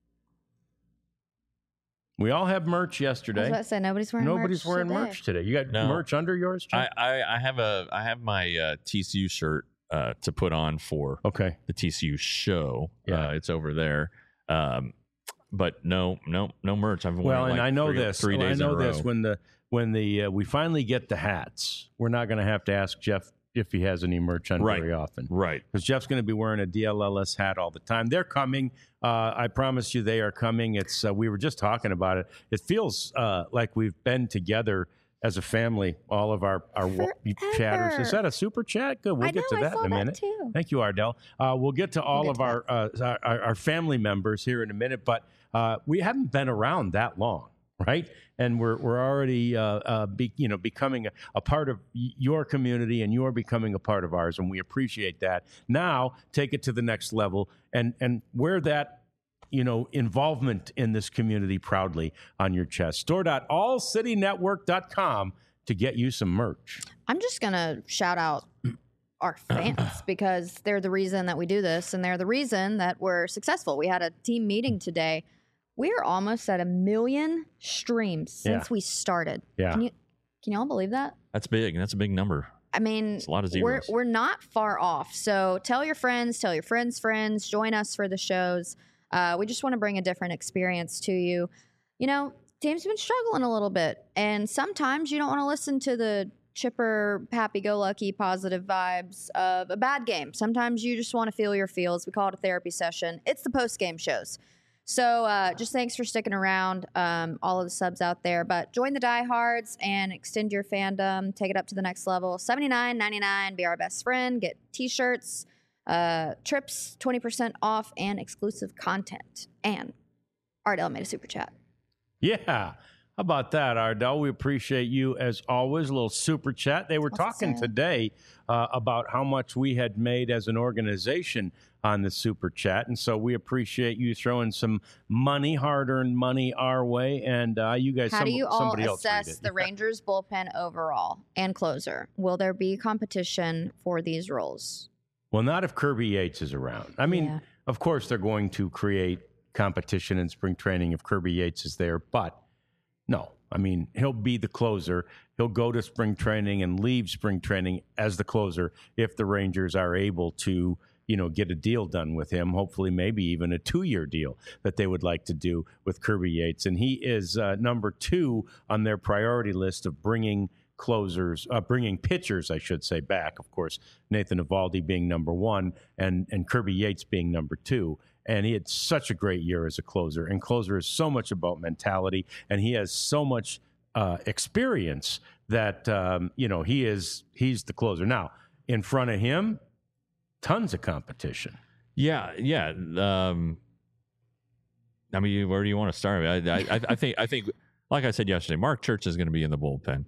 We all have merch yesterday. I was about to say, nobody's wearing merch today. You got merch under yours, Jim? I have my TCU shirt to put on for the TCU show. Yeah. It's over there. But no merch. I've worn and I know this. 3 days I know in a row. this. When we finally get the hats, we're not going to have to ask Jeff if he has any merch on very often. Right. Because Jeff's going to be wearing a DLLS hat all the time. They're coming. I promise you they are coming. It's we were just talking about it. It feels like we've been together as a family, all of our chatters. Is that a super chat? Good. We'll get to that in a minute. Too. Thank you, Ardell. We'll get to all of our family members here in a minute, but we haven't been around that long. right? And we're already becoming a part of your community, and you're becoming a part of ours, and we appreciate that. Now take it to the next level and wear that involvement in this community proudly on your chest. Store.allcitynetwork.com to get you some merch. I'm just gonna shout out our fans because they're the reason that we do this, and they're the reason that we're successful. We had a team meeting today. We're almost at 1 million streams since we started. Yeah. Can you all believe that? That's big. That's a big number. I mean, it's a lot of zeros. We're not far off. So tell your friends, tell your friends' friends, join us for the shows. We just want to bring a different experience to you. Team's been struggling a little bit, and sometimes you don't want to listen to the chipper, happy-go-lucky, positive vibes of a bad game. Sometimes you just want to feel your feels. We call it a therapy session. It's the post-game shows. So just thanks for sticking around, all of the subs out there. But join the diehards and extend your fandom. Take it up to the next level. $79.99. Be our best friend. Get T-shirts, trips, 20% off, and exclusive content. And Ardell made a super chat. Yeah. How about that, Ardell? We appreciate you as always. A little super chat. They were talking today about how much we had made as an organization on the super chat, and so we appreciate you throwing some money, hard-earned money, our way. And you guys, how do you all somebody else assess the Rangers bullpen overall and closer? Will there be competition for these roles? Well, not if Kirby Yates is around. I mean, of course, they're going to create competition in spring training if Kirby Yates is there, but no. I mean, he'll be the closer. He'll go to spring training and leave spring training as the closer if the Rangers are able to, get a deal done with him, hopefully maybe even a 2-year deal that they would like to do with Kirby Yates. And he is number 2 on their priority list of bringing pitchers, I should say, back. Of course, Nathan Eovaldi being number 1 and Kirby Yates being number 2. And he had such a great year as a closer. And closer is so much about mentality, and he has so much experience that he's the closer. Now, in front of him, tons of competition. Yeah. I mean, where do you want to start? I think, like I said yesterday, Mark Church is going to be in the bullpen.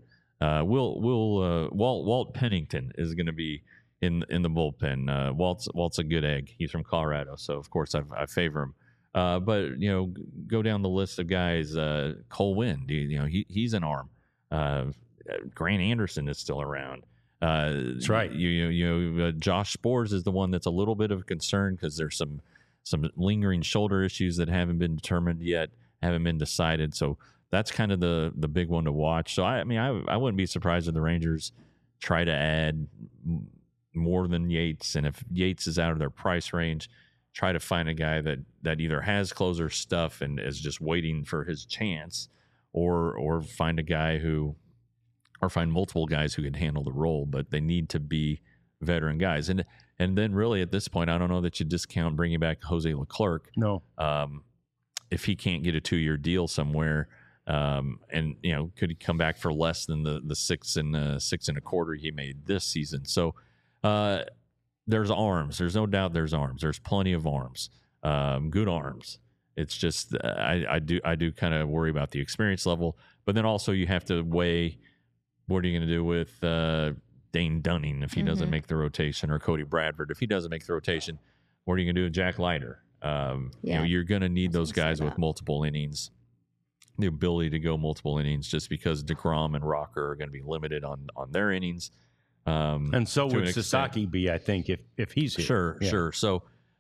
Walt Pennington is going to be in the bullpen. Walt's a good egg. He's from Colorado, so of course I favor him. But go down the list of guys. Cole Winn, he's an arm. Grant Anderson is still around. That's right. Josh Sborz is the one that's a little bit of a concern because there's some lingering shoulder issues that haven't been determined yet, haven't been decided. So that's kind of the big one to watch. So I wouldn't be surprised if the Rangers try to add more than Yates, and if Yates is out of their price range, try to find a guy that either has closer stuff and is just waiting for his chance, or find a guy or find multiple guys who can handle the role, but they need to be veteran guys. And then really at this point, I don't know that you discount bringing back Jose Leclerc. No. If he can't get a 2-year deal somewhere, and could he come back for less than the 6 and 6.25 he made this season? So there's arms. There's no doubt there's arms. There's plenty of arms, good arms. It's just I do kind of worry about the experience level, but then also you have to weigh what are you going to do with Dane Dunning if he doesn't make the rotation, or Cody Bradford if he doesn't make the rotation. What are you going to do with Jack Leiter? You're going to need those guys with multiple innings, the ability to go multiple innings, just because DeGrom and Rocker are going to be limited on their innings. And so would Sasaki be, I think, if he's here. Sure. So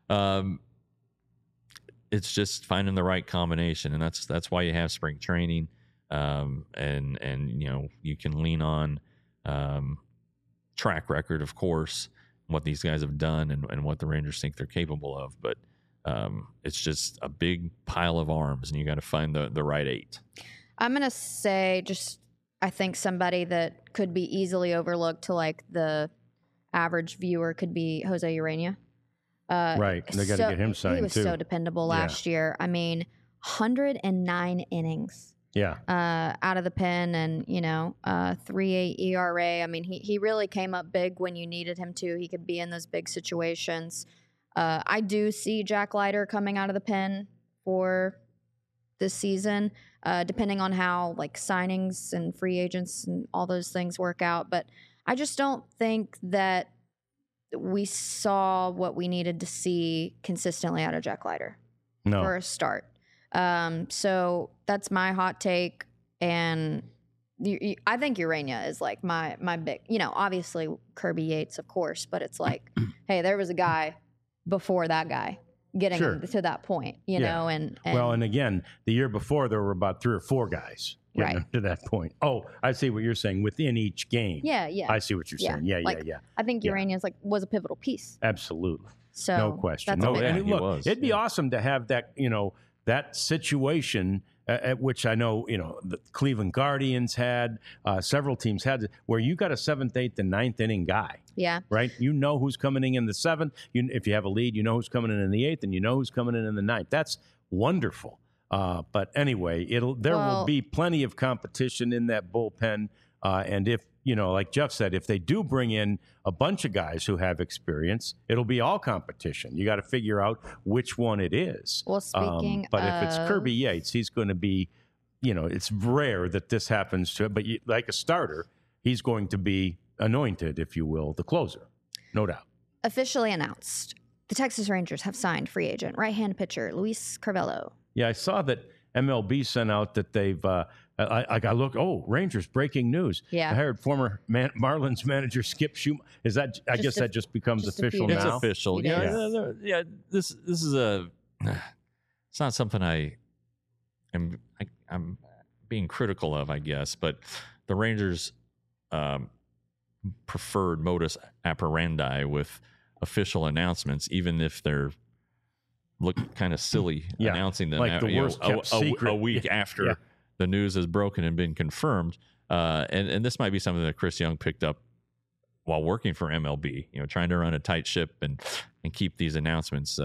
it's just finding the right combination, and that's why you have spring training. And you can lean on track record, of course, what these guys have done and what the Rangers think they're capable of. But it's just a big pile of arms, and you got to find the right 8. I'm going to say I think somebody that could be easily overlooked to like the average viewer could be Jose Urena. Right. They got to get him signed, too. He was so dependable last year. I mean, 109 innings. Yeah. Out of the pen, and 3.8 ERA. I mean, he really came up big when you needed him to. He could be in those big situations. I do see Jack Leiter coming out of the pen for this season, depending on how like signings and free agents and all those things work out. But I just don't think that we saw what we needed to see consistently out of Jack Leiter for a start. So that's my hot take. And I think Urania is like my big, obviously Kirby Yates, of course, but it's like, hey, there was a guy before that guy getting to that point, you know, and well, and again, the year before there were about 3 or 4 guys getting to that point. Oh, I see what you're saying within each game. Yeah. I see what you're saying. Yeah. I think Urania was a pivotal piece. Absolutely. So no question. That's and look, it'd be awesome to have that, that situation at which I know, the Cleveland Guardians had, several teams had, where you got a 7th, 8th, and 9th inning guy. Yeah. Right? You know who's coming in the 7th. If you have a lead, you know who's coming in the 8th, and you know who's coming in the 9th. That's wonderful. But anyway, there will be plenty of competition in that bullpen. And if, like Jeff said, if they do bring in a bunch of guys who have experience, it'll be all competition. You got to figure out which one it is. Well, speaking but if it's Kirby Yates, he's going to be, it's rare that this happens to him. But like a starter, he's going to be anointed, if you will, the closer. No doubt. Officially announced. The Texas Rangers have signed free agent right-hand pitcher Luis Carvalho. Yeah, I saw that MLB sent out that they've Rangers breaking news. Yeah. I heard former Marlins manager Skip Schumacher. Is that? I guess that just becomes official now. It's official. Yeah. This is it's not something I'm being critical of, I guess, but the Rangers preferred modus operandi with official announcements, even if they're look kind of silly announcing them like the worst kept secret. A week after the news has broken and been confirmed. And this might be something that Chris Young picked up while working for MLB, trying to run a tight ship and keep these announcemements,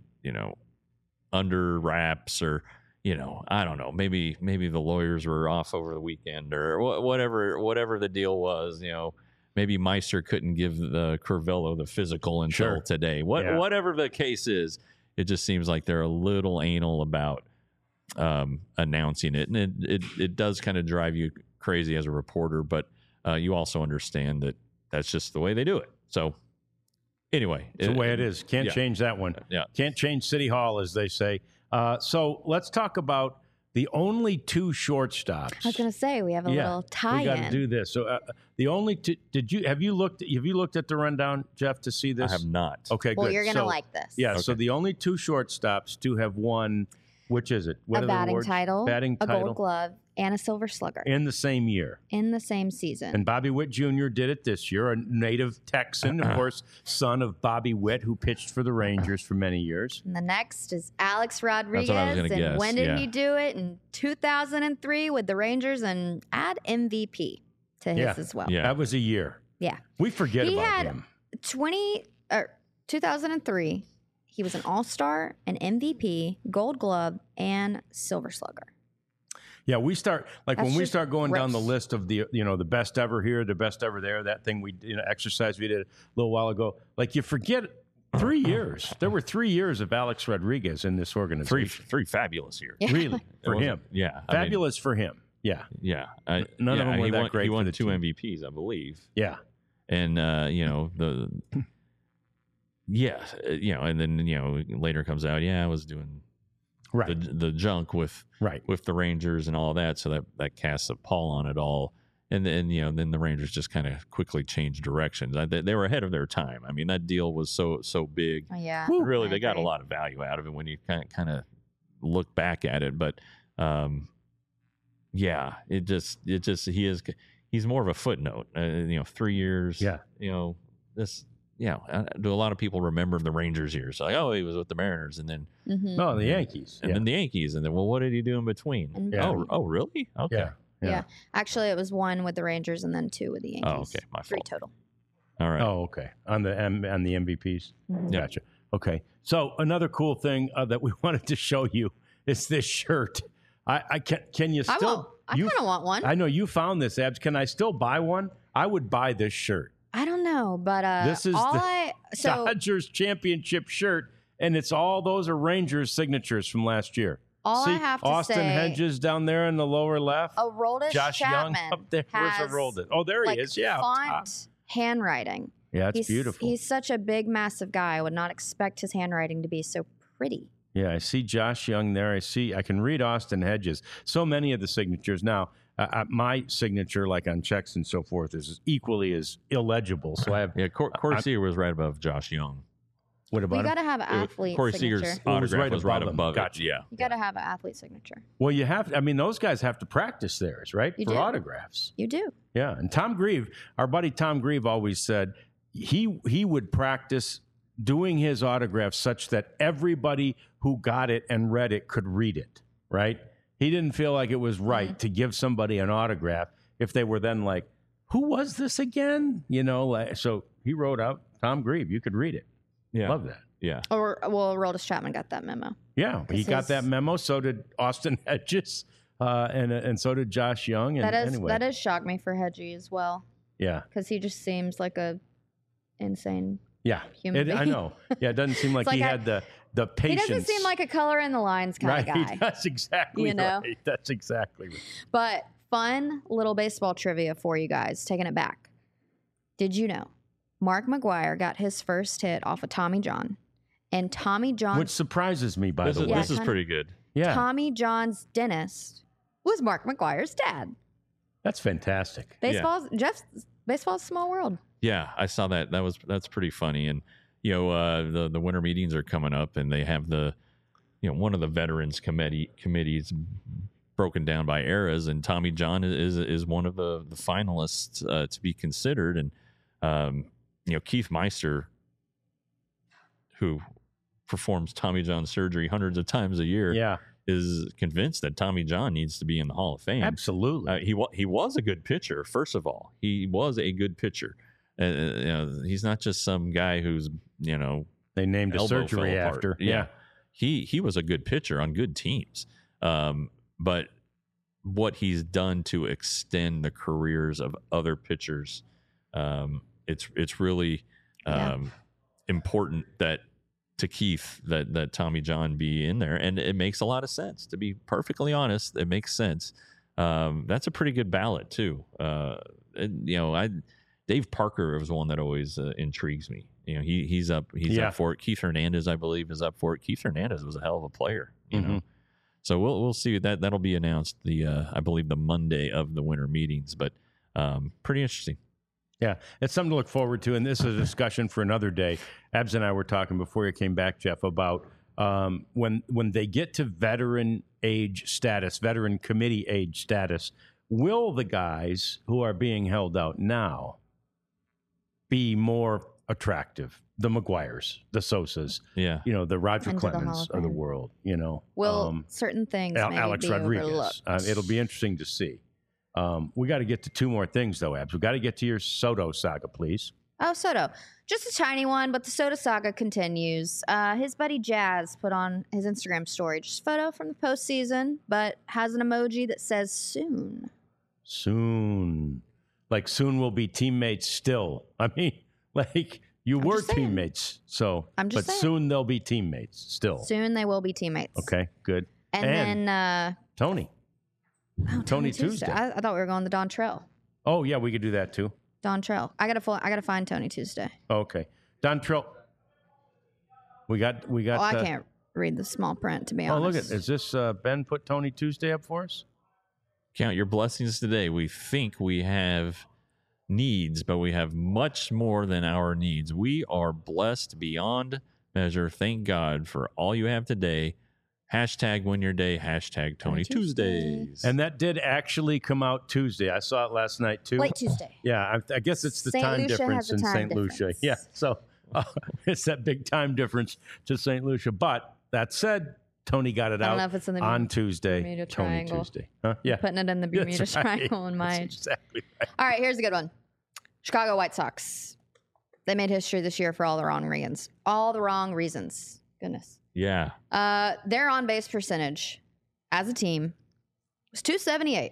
under wraps, or, I don't know, maybe the lawyers were off over the weekend, or whatever the deal was, maybe Meister couldn't give the Carvalho the physical until today. Whatever the case is, it just seems like they're a little anal about announcing it, and it does kind of drive you crazy as a reporter, but you also understand that that's just the way they do it. So anyway, it's the way it is. Can't change that one. Can't change City Hall, as they say. So let's talk about the only 2 shortstops. I was going to say, we have a little tie-in. We got to do this. So the only two, have you looked at the rundown, Jeff, to see this? I have not. Okay, good. Well, you're going to like this. Yeah, okay. So the only 2 shortstops to have won, which is it? What a batting title, a Gold Glove, and a Silver Slugger. In the same year. In the same season. And Bobby Witt Jr. did it this year, a native Texan, of course, son of Bobby Witt, who pitched for the Rangers for many years. And the next is Alex Rodriguez. That's what I was gonna guess. When did he do it? In 2003 with the Rangers, and add MVP to his as well. Yeah. That was a year. Yeah. We forget about him. 2003, he was an All-Star, an MVP, Gold Glove, and Silver Slugger. Yeah, we start when we start going down the gross. list of the the best ever here, the best ever there. That thing exercise we did a little while ago. Like you forget 3 years. There were 3 years of Alex Rodriguez in this organization. Three fabulous years. Really for him. Yeah, fabulous for him. Yeah, yeah. None of them were that great. He won for the 2 team. MVPs, I believe. Yeah, and and then later comes out. Yeah, I was doing. Right. The junk with the Rangers and all that, so that casts a pall on it all. And then then the Rangers just kind of quickly changed directions. They were ahead of their time. I mean, that deal was so big. Yeah, really, they got a lot of value out of it when you kind of look back at it. But he's more of a footnote. 3 years. Yeah. This. Yeah, do a lot of people remember the Rangers years? Like, oh, he was with the Mariners, and then no, the Yankees, and then the Yankees, and then what did he do in between? Oh, really? Okay. Yeah. Actually, it was 1 with the Rangers and then 2 with the Yankees. Oh, okay, my fault. 3 total. All right. Oh, okay. On the MVPs. Mm-hmm. Gotcha. Okay. So another cool thing that we wanted to show you is this shirt. Can you still? I kind of want one. I know you found this, Abs. Can I still buy one? I would buy this shirt. I don't know, but this is the Dodgers championship shirt, and it's all those are Rangers signatures from last year. All See, I have to Austin say, Hedges down there in the lower left. Aroldis Josh Chapman Young up there. Where's has, Aroldis? Oh, there he like, is. Yeah. up top. font handwriting. Yeah, it's beautiful. He's such a big, massive guy. I would not expect his handwriting to be so pretty. Yeah, I see Josh Young there. I can read Austin Hedges. So many of the signatures now. My signature, like on checks and so forth, is equally as illegible. So I have. Yeah, Corey Seager was right above Josh Young. What about You him? got to have an athlete Corey signature. Seager's Oh, it was autograph right was right above him. above Gotcha. it. Yeah. You got to have an athlete signature. Well, you have. I mean, those guys have to practice theirs, right? You For do. autographs. You do. Yeah, and Tom Grieve, our buddy Tom Grieve, always said he would practice doing his autographs such that everybody who got it and read it could read it. Right? He didn't feel like it was right to give somebody an autograph if they were then like, "Who was this again?" You know. So he wrote out Tom Grieve. You could read it. Yeah. Love that. Yeah. Or Aroldis Chapman got that memo. Yeah, he got his- that memo. So did Austin Hedges, and so did Josh Young. And anyway, That has shocked me for Hedgie as well, yeah. because he just seems like a insane. Yeah, Human I being. know. Yeah, it doesn't seem like It's like he I- had the He patience. doesn't seem like a color in the lines kind right. of guy. That's exactly You know? right. That's exactly right. But fun little baseball trivia for you guys, taking it back. Did you know Mark McGwire got his first hit off of Tommy John? And Tommy John's Which surprises me, by This the is, way. this is kinda- pretty good. Yeah, Tommy John's dentist was Mark McGwire's dad. that's fantastic. Baseball's a small world. Yeah, I saw that. That's pretty funny. And the winter meetings are coming up, and they have one of the veterans committees broken down by eras, and Tommy John is one of the finalists to be considered. And Keith Meister, who performs Tommy John surgery hundreds of times a year, Yeah, is convinced that Tommy John needs to be in the Hall of Fame. absolutely. He was a good pitcher. First of all, he was a good pitcher. He's not just some guy who's They named a elbow surgery fell apart. after. Yeah, he was a good pitcher on good teams. But what he's done to extend the careers of other pitchers, it's really important that to Keith that Tommy John be in there, and it makes a lot of sense. To be perfectly honest, it makes sense. That's a pretty good ballot too. Dave Parker was one that always intrigues me. He's up for it. Keith Hernandez, I believe, is up for it. Keith Hernandez was a hell of a player. You know, so we'll see that'll be announced I believe the Monday of the winter meetings, but pretty interesting. Yeah, it's something to look forward to, and this is a discussion for another day. Abs and I were talking before you came back, Jeff, about when they get to veteran age status, veteran committee age status, will the guys who are being held out now be more attractive? The McGuires, the Sosas, Yeah. the Roger Into the Hall Clemens of of the Fame. world, Will certain things maybe Alex be Rodriguez. overlooked? It'll be interesting to see. We got to get to two more things, though, Abs. We got to get to your Soto saga, please. Oh, Soto. Just a tiny one, but the Soto saga continues. His buddy Jazz put on his Instagram story just a photo from the postseason, but has an emoji that says soon. Soon. Like, soon we'll be teammates still. I mean, like, you were just saying. teammates, so. I'm just but saying. soon they'll be teammates still. Soon they will be teammates. Okay, good. And then Tony. Tony Tuesday. I thought we were going to Dontrell. Oh, yeah, we could do that, too. Dontrell. I gotta find Tony Tuesday. Okay. Dontrell. We got. Oh, I can't read the small print, to be Oh, honest. look at. Is this Ben put Tony Tuesday up for us? Count your blessings today. We think we have needs, but we have much more than our needs. We are blessed beyond measure. Thank God for all you have today. Hashtag win your day. Hashtag Tony Tuesdays. And that did actually come out Tuesday. I saw it last night, too. Late Tuesday. Yeah, I guess it's the St. time Lucia difference has a in time St. Lucia. difference. Yeah, so it's that big time difference to St. Lucia. But that said, Tony got it I don't out know if it's in the on Tuesday. Bermuda Tony Triangle. Tuesday. Huh? Yeah. Putting it in the Bermuda That's right. Triangle in my That's exactly right. All right, here's a good one. Chicago White Sox. They made history this year for all the wrong reasons. All the wrong reasons. Goodness. Yeah. Their on-base percentage as a team was 278.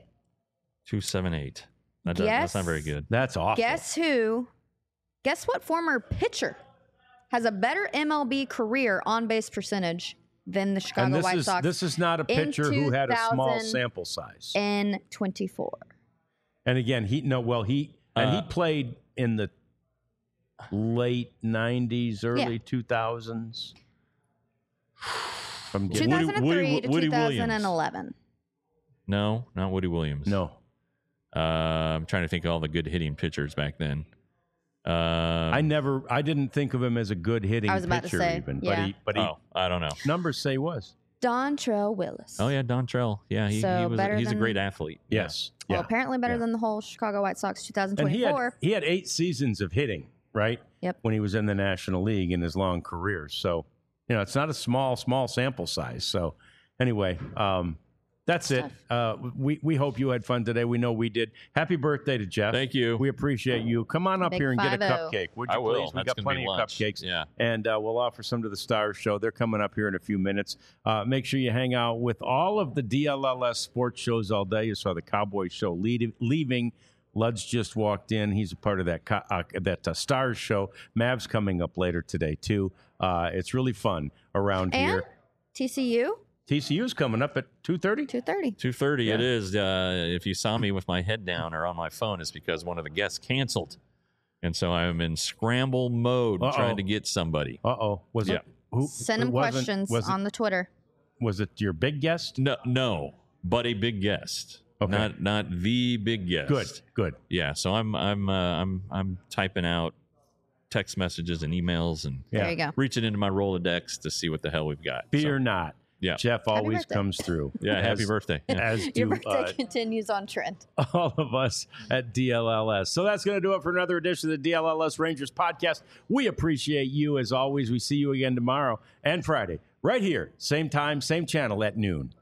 278. That's not very good. That's awful. Guess who? Guess what former pitcher has a better MLB career on-base percentage than the Chicago White Sox. This is not a pitcher who had a small sample size. In 24. And again, he played in the late 90s, early 2000s. 2003 to Woody 2011. Williams. No, not Woody Williams. No. I'm trying to think of all the good hitting pitchers back then. I didn't think of him as a good hitting pitcher. I was about to say, even, yeah. but he I don't know. Numbers say was. Dontrelle Willis. Oh yeah, Dontrelle. Yeah, he's a great athlete. Yes. Well, Yeah. apparently better than the whole Chicago White Sox 2024. And he had 8 seasons of hitting, right? Yep. When he was in the National League in his long career. So, it's not a small sample size. So, anyway, that's it. We hope you had fun today. We know we did. Happy birthday to Jeff. Thank you. We appreciate you. Come on up Big here and get a 50. cupcake. Would you I will. please? We That's got gonna plenty be of lunch. cupcakes. Yeah. And we'll offer some to the Stars Show. They're coming up here in a few minutes. Make sure you hang out with all of the DLLS sports shows all day. You saw the Cowboy Show leaving. Lud's just walked in. He's a part of that Stars Show. Mavs coming up later today, too. It's really fun around And here. TCU? TCU's coming up at 2:30? 2:30. 2:30 Yeah. it is. If you saw me with my head down or on my phone, it's because one of the guests canceled. And so I'm in scramble mode trying to get somebody. Uh-oh. Was it? Send him questions on the Twitter. Was it your big guest? No, but a big guest. Okay. Not the big guest. Good. Yeah, so I'm typing out text messages and emails and There you go. reaching into my Rolodex to see what the hell we've got. Be or not. Yeah. Jeff always birthday. comes through. Yeah, happy birthday. Yeah. As Your do birthday continues on trend. all of us at DLLS. So that's going to do it for another edition of the DLLS Rangers podcast. We appreciate you as always. We see you again tomorrow and Friday, right here, same time, same channel at noon.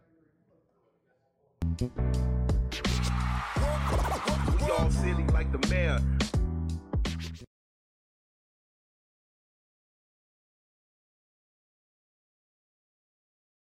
We all silly like the mayor.